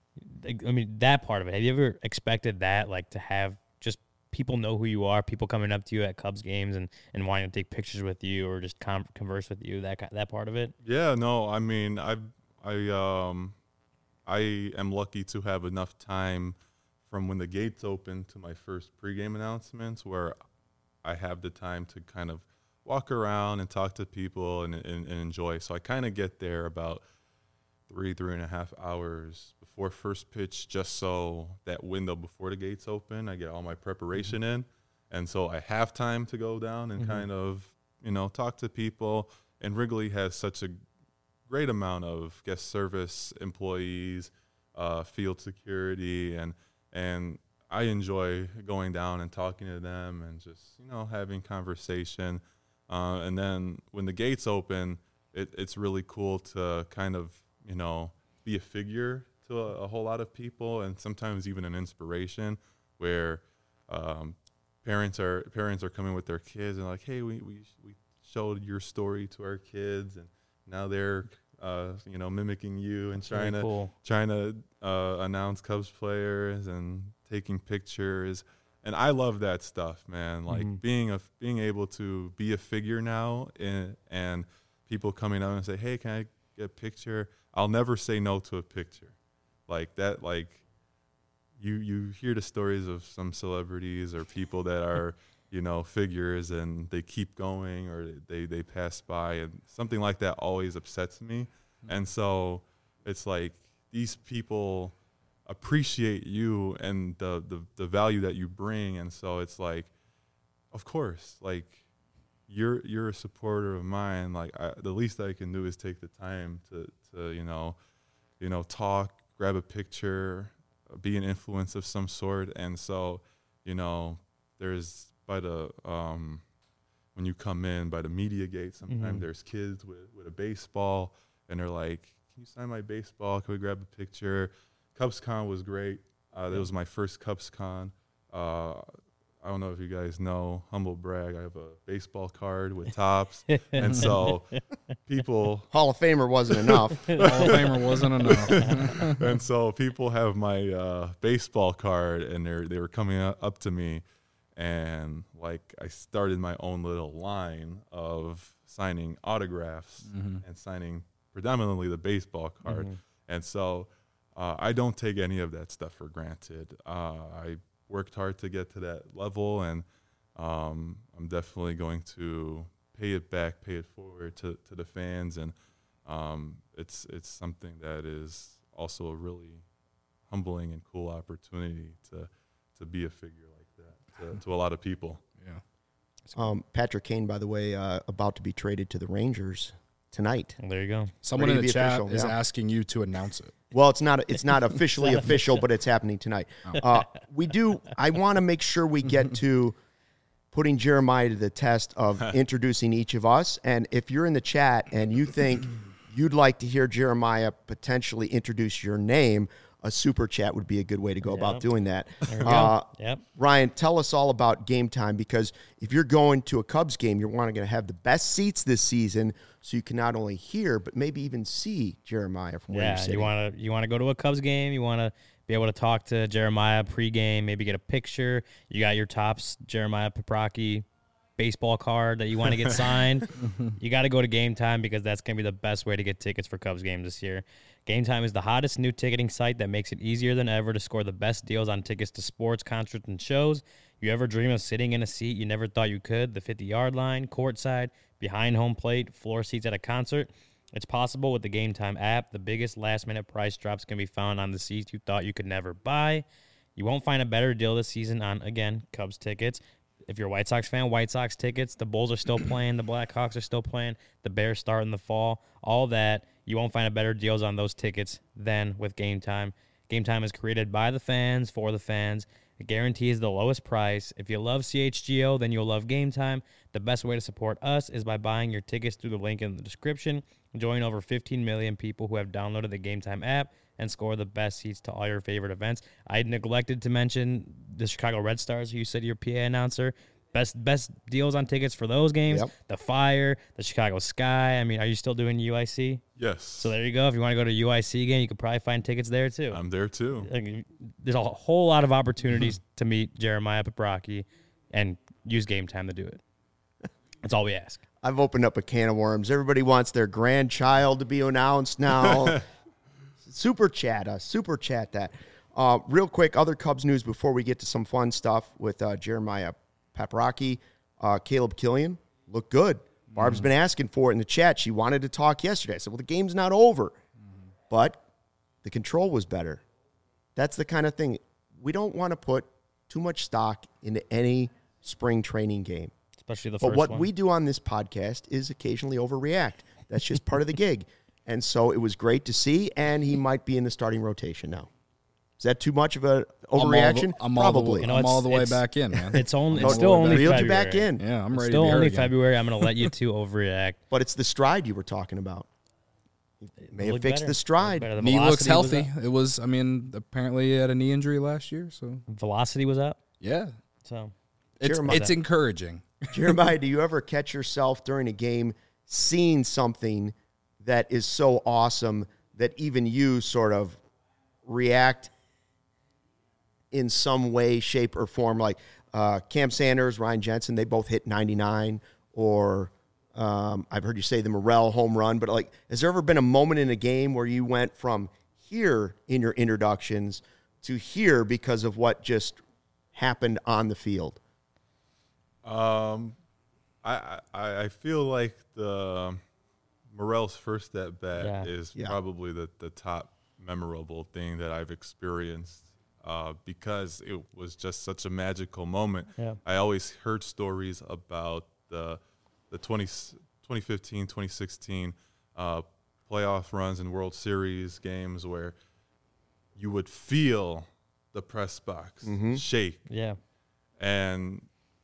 part of it. Have you ever expected that, like to have just people know who you are, people coming up to you at Cubs games and wanting to take pictures with you or just converse with you? That part of it. Yeah, no, I mean, I am lucky to have enough time from when the gates open to my first pregame announcements where I have the time to kind of walk around and talk to people and enjoy. So I kind of get there about 3.5 hours before first pitch, just so that window before the gates open, I get all my preparation in. And so I have time to go down and kind of, you know, talk to people. And Wrigley has such a great amount of guest service employees, field security, and I enjoy going down and talking to them and just, you know, having conversation. And then when the gates open, it's really cool to kind of, you know, be a figure to a whole lot of people, and sometimes even an inspiration where parents are coming with their kids and like, hey, we showed your story to our kids, and now they're you know, mimicking you and trying to announce Cubs players and taking pictures. And I love that stuff, man. Like being able to be a figure now, and people coming up and say, hey, can I get a picture? I'll never say no to a picture. Like that, like you hear the stories of some celebrities or people that are, you know, figures, and they keep going or they pass by, and something like that always upsets me. And so it's like these people appreciate you and the value that you bring. And so it's like, of course, like you're a supporter of mine. Like the least I can do is take the time to you know, talk, grab a picture, be an influence of some sort. And so, you know, there's when you come in by the media gate, sometimes there's kids with a baseball, and they're like, "Can you sign my baseball? Can we grab a picture?" CubsCon was great. That was my first CubsCon. I don't know if you guys know, humble brag, I have a baseball card with Topps. And so people... Hall of Famer wasn't enough. Hall of Famer wasn't enough. And so people have my baseball card, and they were coming up to me, and like I started my own little line of signing autographs and signing predominantly the baseball card. And so I don't take any of that stuff for granted. I worked hard to get to that level, and I'm definitely going to pay it back, pay it forward to the fans, and it's something that is also a really humbling and cool opportunity to be a figure like that to a lot of people. Yeah. Patrick Kane, by the way, about to be traded to the Rangers tonight. Well, there you go. Someone Ready in to the be chat official, is yeah. asking you to announce it. Well, it's not officially official, but it's happening tonight. I want to make sure we get to putting Jeremiah to the test of introducing each of us. And if you're in the chat and you think you'd like to hear Jeremiah potentially introduce your name, a super chat would be a good way to go about doing that. There we go. Yep. Ryan, tell us all about Game Time, because if you're going to a Cubs game, you're wanting to have the best seats this season, so you can not only hear but maybe even see Jeremiah from where you're sitting. you want to go to a Cubs game. You want to be able to talk to Jeremiah pregame, maybe get a picture. You got your Topps Jeremiah Paprocki baseball card that you want to get signed. You got to go to Game Time, because that's going to be the best way to get tickets for Cubs games this year. Game Time is the hottest new ticketing site that makes it easier than ever to score the best deals on tickets to sports, concerts, and shows. You ever dream of sitting in a seat you never thought you could? The 50-yard line, courtside, behind home plate, floor seats at a concert? It's possible with the Game Time app. The biggest last-minute price drops can be found on the seats you thought you could never buy. You won't find a better deal this season on, again, Cubs tickets. If you're a White Sox fan, White Sox tickets. The Bulls are still playing. The Blackhawks are still playing. The Bears start in the fall. All that. You won't find a better deals on those tickets than with Game Time. Game Time is created by the fans, for the fans. It guarantees the lowest price. If you love CHGO, then you'll love Game Time. The best way to support us is by buying your tickets through the link in the description. Join over 15 million people who have downloaded the Game Time app and score the best seats to all your favorite events. I neglected to mention the Chicago Red Stars, who you said your PA announcer. Best deals on tickets for those games. Yep. The Fire, the Chicago Sky. I mean, are you still doing UIC? Yes. So there you go. If you want to go to UIC game, you could probably find tickets there too. I'm there too. Like, there's a whole lot of opportunities to meet Jeremiah Paprocki and use Game Time to do it. That's all we ask. I've opened up a can of worms. Everybody wants their grandchild to be announced now. Super chat that. Real quick, other Cubs news before we get to some fun stuff with Jeremiah Paprocki. Caleb Killian looked good. Barb's been asking for it in the chat. She wanted to talk yesterday. I said, well, the game's not over. But the control was better. That's the kind of thing. We don't want to put too much stock into any spring training game. Especially the But first what one. we do on this podcast is occasionally overreact. That's just part of the gig. And so it was great to see, and he might be in the starting rotation now. Is that too much of an overreaction? Probably. know, I'm all the way it's- back in, man. It's only. Oh, It's still only reeled February. you back in. Yeah, I'm It's ready still to be heard only again. February. I'm going to let you two overreact. But it's the stride you were talking about. May have Look fixed better. the Look stride. better. The Knee looks velocity was healthy. up. It was, I mean, apparently he had a knee injury last year, so Velocity was up. yeah. So It's encouraging. Jeremiah, do you ever catch yourself during a game seeing something that is so awesome that even you sort of react in some way, shape, or form? Like Cam Sanders, Ryan Jensen, they both hit 99. Or I've heard you say the Morrell home run. But like, has there ever been a moment in a game where you went from here in your introductions to here because of what just happened on the field? I feel like the Morrell's first at bat is Yeah. probably the top memorable thing that I've experienced because it was just such a magical moment. Yeah. I always heard stories about the 2015, 2016 playoff runs and World Series games where you would feel the press box shake. yeah, And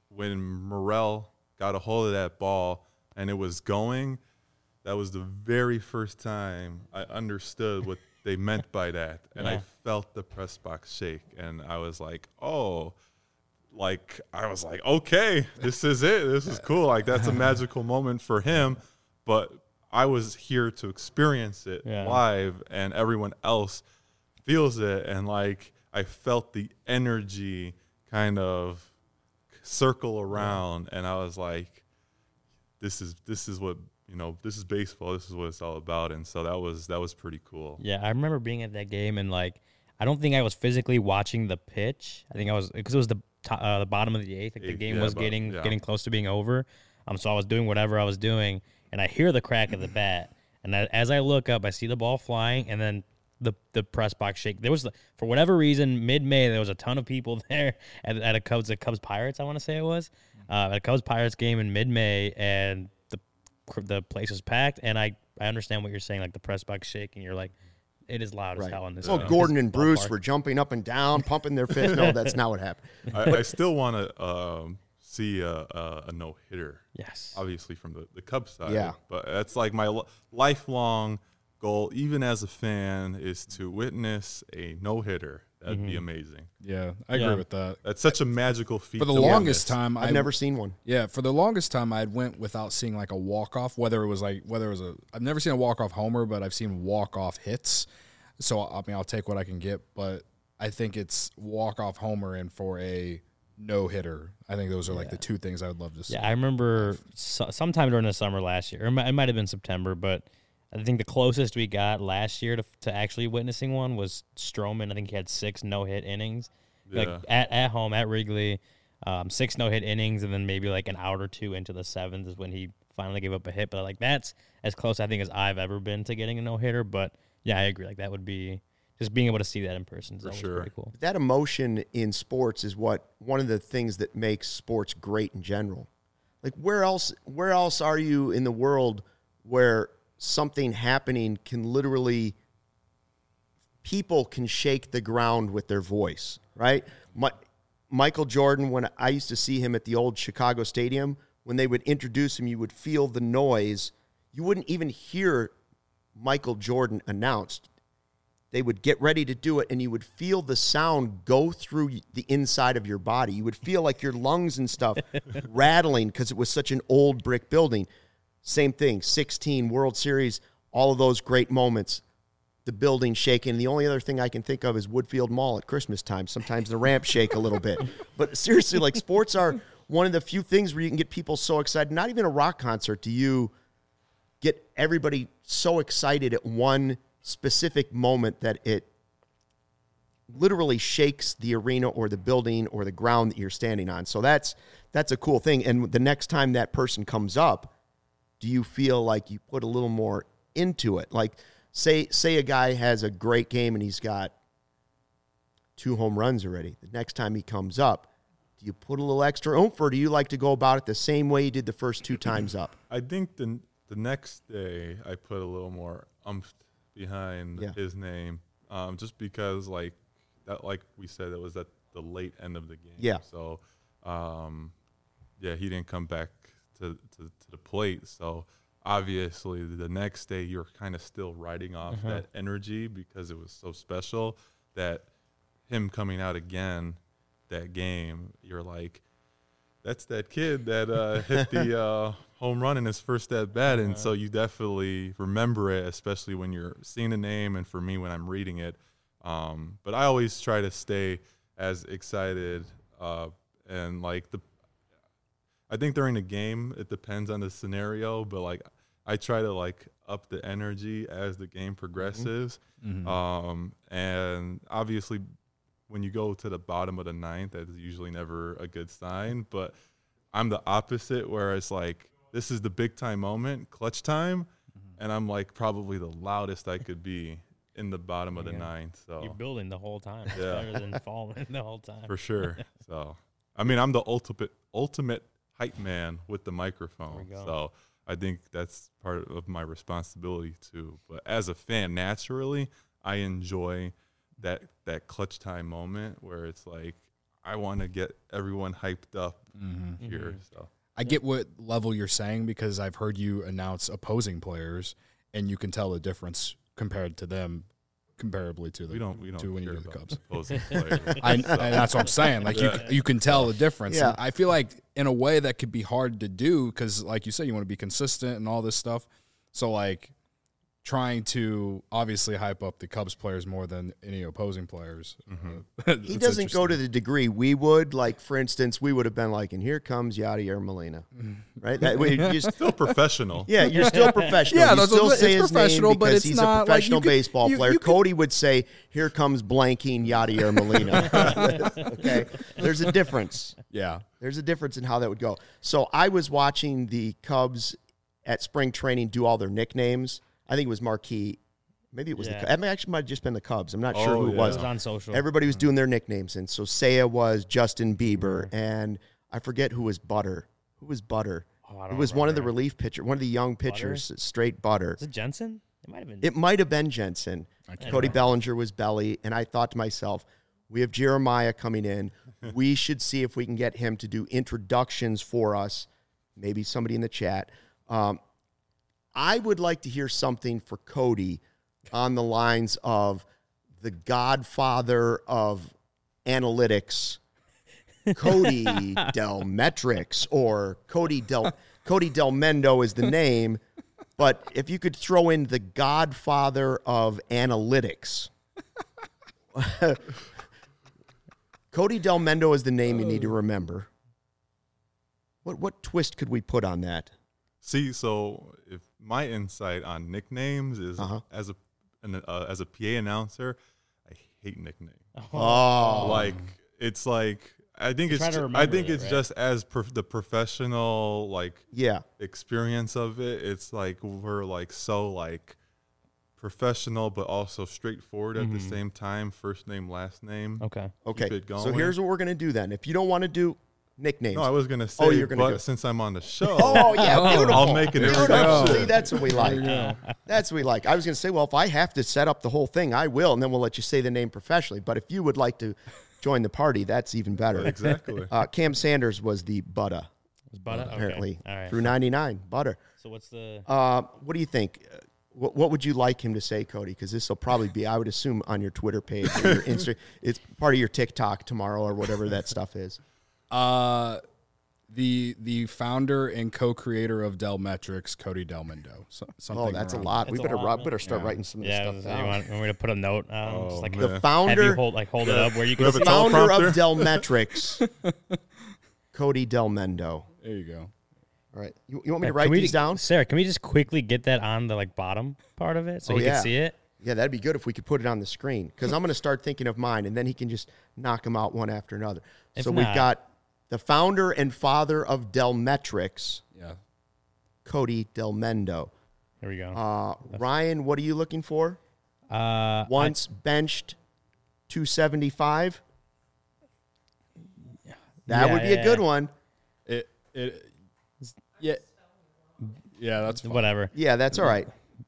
when Morrell got a hold of that ball and it was going, that was the very first time I understood what they meant by that. And I felt the press box shake. And I was like, oh, like, I was like, okay, this is it. This is cool. Like, that's a magical moment for him. But I was here to experience it live, and everyone else feels it. And, like, I felt the energy kind of circle around, and I was like, this is what, you know, this is baseball. This is what it's all about. And so that was pretty cool. Yeah, I remember being at that game, and, like, I don't think I was physically watching the pitch. I think I was, because it was the bottom of the eighth. Like, the game was getting close to being over. So I was doing whatever I was doing, and I hear the crack of the bat. And as I look up, I see the ball flying, and then the press box shake. There was, for whatever reason, mid-May, there was a ton of people there at a Cubs Pirates, I want to say it was, at a Cubs Pirates game in mid-May, and the place was packed. And I understand what you're saying, like the press box shaking. You're like, it is loud as hell in this. Well, Gordon and Bruce were jumping up and down, pumping their fists. No, that's not what happened. I still want to see a no-hitter. Yes. Obviously from the Cubs side. Yeah. But that's like my lifelong goal, even as a fan, is to witness a no-hitter. That'd be amazing. Yeah, I agree with that. That's such a magical feat. For the longest time, I've never seen one. Yeah, for the longest time, I went without seeing like a walk-off, I've never seen a walk-off homer, but I've seen walk-off hits. So, I mean, I'll take what I can get, but I think it's walk-off homer and for a no-hitter. I think those are like the two things I would love to see. Yeah, I remember sometime during the summer last year, or it might have been September, but I think the closest we got last year to actually witnessing one was Stroman. I think he had 6 no-hit innings, like at home at Wrigley, 6 no-hit innings, and then maybe like an out or two into the 7th is when he finally gave up a hit. But like that's as close I think as I've ever been to getting a no-hitter. But yeah, I agree. Like that would be just being able to see that in person is always pretty cool. That emotion in sports is one of the things that makes sports great in general. Like where else are you in the world where something happening can literally, people can shake the ground with their voice, right? Michael Jordan, when I used to see him at the old Chicago Stadium, when they would introduce him, you would feel the noise. You wouldn't even hear Michael Jordan announced. They would get ready to do it, and you would feel the sound go through the inside of your body. You would feel like your lungs and stuff rattling because it was such an old brick building. Same thing, 16 World Series, all of those great moments, the building shaking. The only other thing I can think of is Woodfield Mall at Christmas time. Sometimes the ramps shake a little bit. But seriously, like sports are one of the few things where you can get people so excited. Not even a rock concert do you get everybody so excited at one specific moment that it literally shakes the arena or the building or the ground that you're standing on. So that's a cool thing. And the next time that person comes up, do you feel like you put a little more into it? Like, say a guy has a great game and he's got 2 home runs already. The next time he comes up, do you put a little extra oomph, or do you like to go about it the same way you did the first 2 times up? I think the next day I put a little more oomph behind his name, just because like we said, it was at the late end of the game. Yeah. So, he didn't come back to the plate. So obviously the next day you're kind of still riding off that energy because it was so special that him coming out again that game, you're like, that's that kid that hit the home run in his first at bat. And so you definitely remember it, especially when you're seeing the name. And for me, when I'm reading it, but I always try to stay as excited and like I think during the game, it depends on the scenario, but like I try to like up the energy as the game progresses. And obviously when you go to the bottom of the 9th, that is usually never a good sign, but I'm the opposite where it's like, this is the big time moment, clutch time. And I'm like probably the loudest I could be in the bottom of the 9th. So you're building the whole time. It's better than falling the whole time. For sure. So, I mean, I'm the ultimate hype man with the microphone. So I think that's part of my responsibility too. But as a fan, naturally, I enjoy that clutch time moment where it's like I want to get everyone hyped up here. Mm-hmm. So I get what level you're saying because I've heard you announce opposing players, and you can tell the difference compared to them, comparably to the we don't to when you care do the about Cubs. opposing players. And that's what I'm saying. Like you can tell the difference. Yeah. And I feel like in a way that could be hard to do because, like you said, you want to be consistent and all this stuff. So like trying to obviously hype up the Cubs players more than any opposing players. He doesn't go to the degree we would. Like, for instance, we would have been like, and here comes Yadier Molina, right? That way, you just, Still professional. yeah, you're still professional. Yeah, you that's still what- say it's his professional, name but because it's he's not a like professional you could- baseball you player. could- Cody would say, here comes blanking Yadier Molina. Okay? There's a difference. Yeah. There's a difference in how that would go. So I was watching the Cubs at spring training do all their nicknames. I think it was Marquee. Maybe it was Yeah. the Cubs. It actually might have just been the Cubs. I'm not sure Oh, who it yeah. was. It was on social. Everybody was doing their nicknames. And so Seiya was Justin Bieber. And I forget who was Butter. Who was Butter? Oh, I It don't was one of the remember. relief pitchers, one of the young pitchers, straight Butter. Is it Jensen? It might have been. It might have been Jensen. Cody Bellinger was Belly. And I thought to myself, we have Jeremiah coming in. We should see if we can get him to do introductions for us. Maybe somebody in the chat. I would like to hear something for Cody on the lines of the godfather of analytics, Cody Delmetrics, or Cody Del Mendo is the name. But if you could throw in the godfather of analytics, Cody Del Mendo is the name you need to remember. What twist could we put on that? See, so if my insight on nicknames is as a PA announcer, I hate nicknames. Oh, Like it's like I think it's try to ju- I remember think it, it's right? just as the professional like yeah. experience of it. It's like we're like so like professional, but also straightforward at the same time. First name, last name. Okay. Okay. Keep it So going. here's what we're going to do then. If you don't want to do nicknames. No, I was gonna say, you're gonna do but it. since I'm on the show, Oh, yeah. Beautiful. I'll make an Beautiful. introduction. See, that's what we like. That's what we like. I was going to say, well, if I have to set up the whole thing, I will, and then we'll let you say the name professionally. But if you would like to join the party, that's even better. Exactly. Cam Sanders was the Butta, Was Butter? Okay. apparently, All right. through 99. Butter. So what's the? What do you think? What would you like him to say, Cody? Because this will probably be, I would assume, on your Twitter page or your Insta. It's part of your TikTok tomorrow or whatever that stuff is. The founder and co-creator of Delmetrics, Cody Delmendo. So, something Oh, that's a around- lot. We That's a better lot, better start Yeah. writing some of this Yeah. stuff You down. want me to put a note? Oh, Just like man. The Yeah. have you founder, hold it up where you can have see a it? tele- founder of teleprompter? Delmetrics, Cody Delmendo. There you go. All right, you want me to Can write we- these down? Sarah, can we just quickly get that on the like bottom part of it so he yeah. can see it? Yeah, that'd be good if we could put it on the screen because I'm going to start thinking of mine, and then he can just knock them out one after another. If So we've not- got the founder and father of Delmetrics, Yeah. Cody Delmendo. Here we go. Ryan, what are you looking for? Once. Benched 275. That Yeah, would be a good yeah. one. Yeah, that's fine. Whatever. Yeah, that's all right.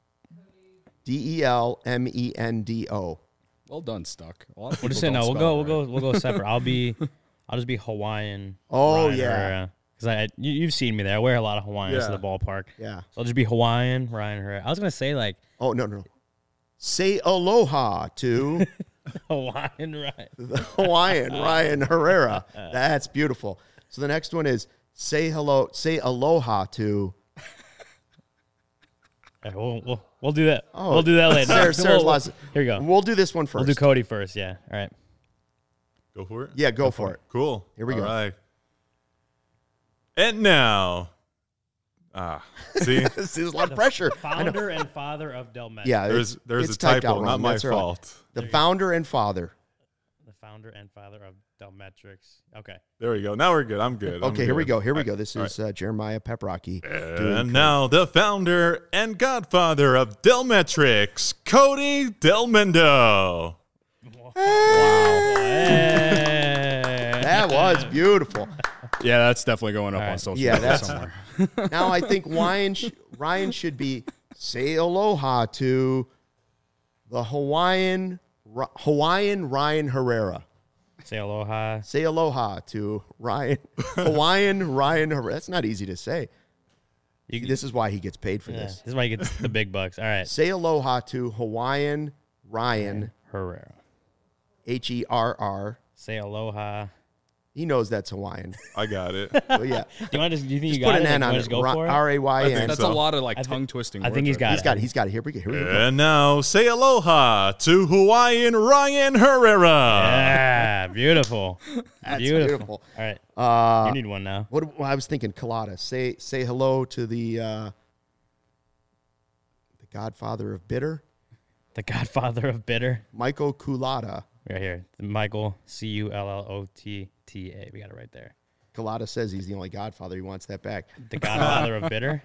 Delmendo. Well done, Stuck. A lot of We'll just say people no. don't We'll spell it right. go separate. I'll just be Hawaiian. Oh, Ryan yeah. Herrera. Because you've seen me there. I wear a lot of Hawaiians to Yeah. the ballpark. Yeah. So I'll just be Hawaiian Ryan Herrera. I was gonna say like Oh, no. Say aloha to Hawaiian Ryan. the Hawaiian Ryan Herrera. That's beautiful. So the next one is say aloha to. Yeah, we'll do that. Oh, We'll do that later. Sarah's We'll- lost. Here we go. We'll do this one first. We'll do Cody first. Yeah. All right. Go for it. Yeah, go for it. Cool. Here we go. All right. And now, see, This is a lot of pressure. I know. Founder and father of Delmet. Yeah, there's it's a typed out typo, wrong. not my That's all right. fault. The founder and father. The founder and father of Delmetrics. Okay. There we go. Now we're good. I'm good. I'm Okay, here we good. go. Here we All go. right. This All is Jeremiah Peprocki. And now the founder and godfather of Delmetrics, Cody Delmendo. That was beautiful. Yeah, that's definitely going up All on right. social Yeah, media that's- somewhere. Now I think Ryan should be say aloha to the Hawaiian Ryan Herrera. Say aloha. Say aloha to Ryan. Hawaiian Ryan. That's not easy to say. This is why he gets paid for Yeah, this. this is why he gets the big bucks. All right. Say aloha to Hawaiian Ryan. Herrera. Herr. Say aloha. He knows that's Hawaiian. I got it. So yeah, Do you want to? Do you think just you put got an it? N Like, on wanna it. just go for it? R-A-Y-N. That's so. a lot of like tongue twisting. I think he's got He's it. got it. He's got it. Here we go. And now, say aloha to Hawaiian Ryan Herrera. Yeah, beautiful. That's beautiful. beautiful. All right. You need one now. What I was thinking, Colada. Say hello to the Godfather of Bitter, The Godfather of Bitter. Michael Culata. Right here. Michael, Cullota. We got it right there. Culata says he's the only Godfather. He wants that back. The Godfather of Bitter.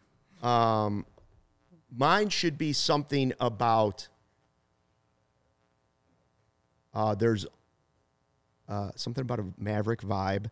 Mine should be something about. There's something about a Maverick vibe.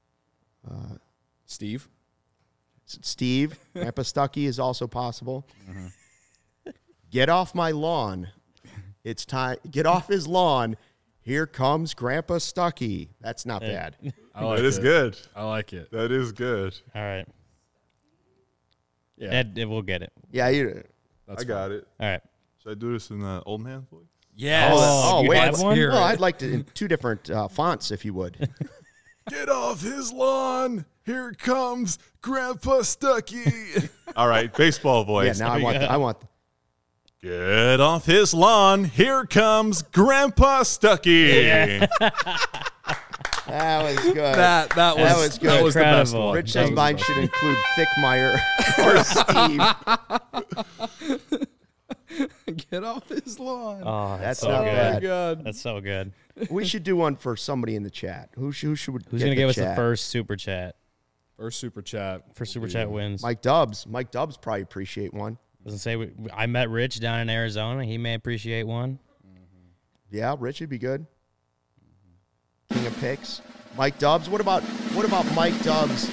Steve. Steve, Grandpa Stuckey is also possible. Get off my lawn. It's time. Get off his lawn. Here comes Grandpa Stuckey. That's not bad. That is good. I like it. That is good. All right. Yeah. We'll get it. Yeah, That's I got it. All right. Should I do this in the old man voice? Yes. Oh, you wait. have one? Well, I'd like to in two different fonts, if you would. Get off his lawn. Here comes Grandpa Stuckey. All right, baseball voice. Yeah, now I want. Get off his lawn. Here comes Grandpa Stuckey. That was good. That was good. That was the best Incredible. one. Rich That says was mine the should best include Thickmeyer or Steve. one. Get off his lawn. Oh, That's so not good. bad. God. That's so good. We should do one for somebody in the chat. Who's Who's gonna give us the first super chat? First super chat. First super chat wins. Mike Dubs. Mike Dubs probably appreciate one. Doesn't say I met Rich down in Arizona. He may appreciate one. Yeah, Rich would be good. King of picks. Mike Dubs. What about Mike Dubs?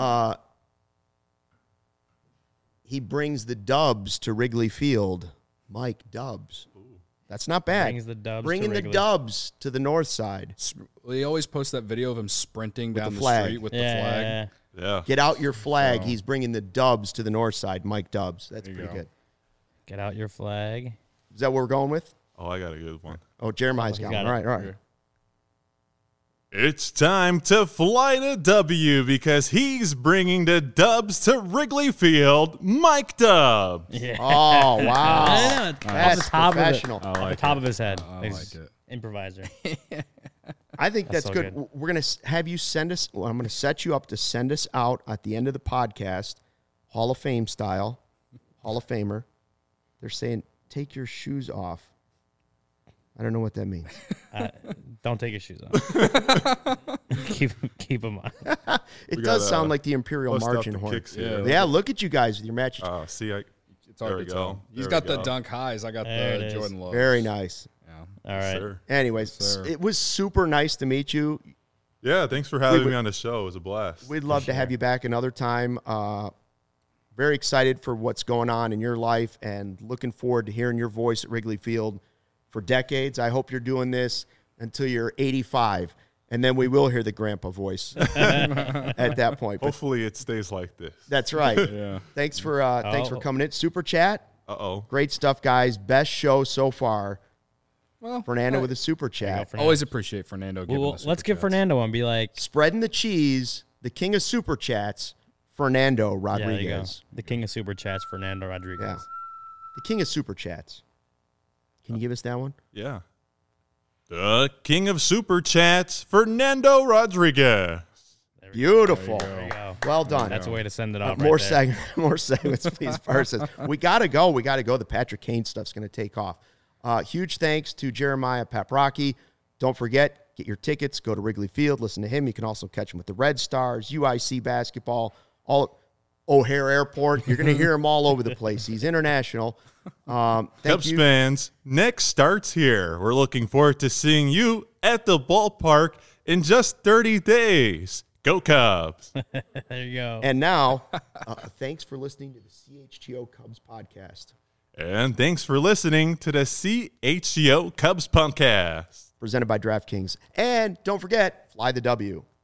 He brings the Dubs to Wrigley Field. Mike Dubs. That's not bad. Brings the Dubs to Bringing the Wrigley. Dubs to the north side. He always posts that video of him sprinting down the the, flag. street with Yeah, the flag. yeah, Yeah. Get out your flag. So- He's bringing the Dubs to the north side. Mike Dubs. That's There you pretty go. good. Get out your flag. Is that what we're going with? Oh, I got a good one. Oh, Jeremiah's he's got got one. it. All right. It's time to fly to W because he's bringing the Dubs to Wrigley Field. Mike Dubs. Yeah. Oh, wow. I know. That's Off the top professional. Of it. Off the top of his head. I He's like it. Improviser. I think that's so good. good. We're going to have you send us, well, I'm going to set you up to send us out at the end of the podcast, Hall of Fame style, Hall of Famer. They're saying, take your shoes off. I don't know what that means. Don't take your shoes off. keep them on. It We does got, sound like the Imperial Bust out Marching the Horn. kicks Yeah. here. Yeah, look at you guys with your matches. See, It's hard There to we tell. go. He's There got we the go. dunk highs. I got There it the is. Jordan lows. Very nice. Yeah. All right. sir. Anyways, Yes, sir. it was super nice to meet you. Yeah, thanks for having would- me on the show. It was a blast. We'd love to have you back another time. Very excited for what's going on in your life and looking forward to hearing your voice at Wrigley Field for decades. I hope you're doing this until you're 85, and then we will hear the grandpa voice at that point. But Hopefully it stays like this. that's right. Yeah. Thanks for coming in. Super chat. Uh-oh. Great stuff, guys. Best show so far. Well, Fernando with a super There chat. you go, always appreciate Fernando giving Well, us let's super give chats. Fernando one. Be like, Spreading the cheese, the king of super chats, Fernando yeah, there you go. Rodriguez. The king of super chats, Fernando Rodriguez. Yeah. The king of super chats. Can you give us that one? Yeah. The king of super chats, Fernando Rodriguez. Beautiful. There you go. Well done. That's a way to send it off. More right there. more segments, please. Parsons. We gotta go. The Patrick Kane stuff's gonna take off. Huge thanks to Jeremiah Paprocki. Don't forget, get your tickets. Go to Wrigley Field. Listen to him. You can also catch him with the Red Stars, UIC basketball, all O'Hare Airport. You're gonna hear him all over the place. He's international. Thank Cubs you. fans, next starts here. We're looking forward to seeing you at the ballpark in just 30 days. Go Cubs. There you go. And now, thanks for listening to the CHGO Cubs podcast. And thanks for listening to the CHGO Cubs podcast. presented by DraftKings. And don't forget, fly the W.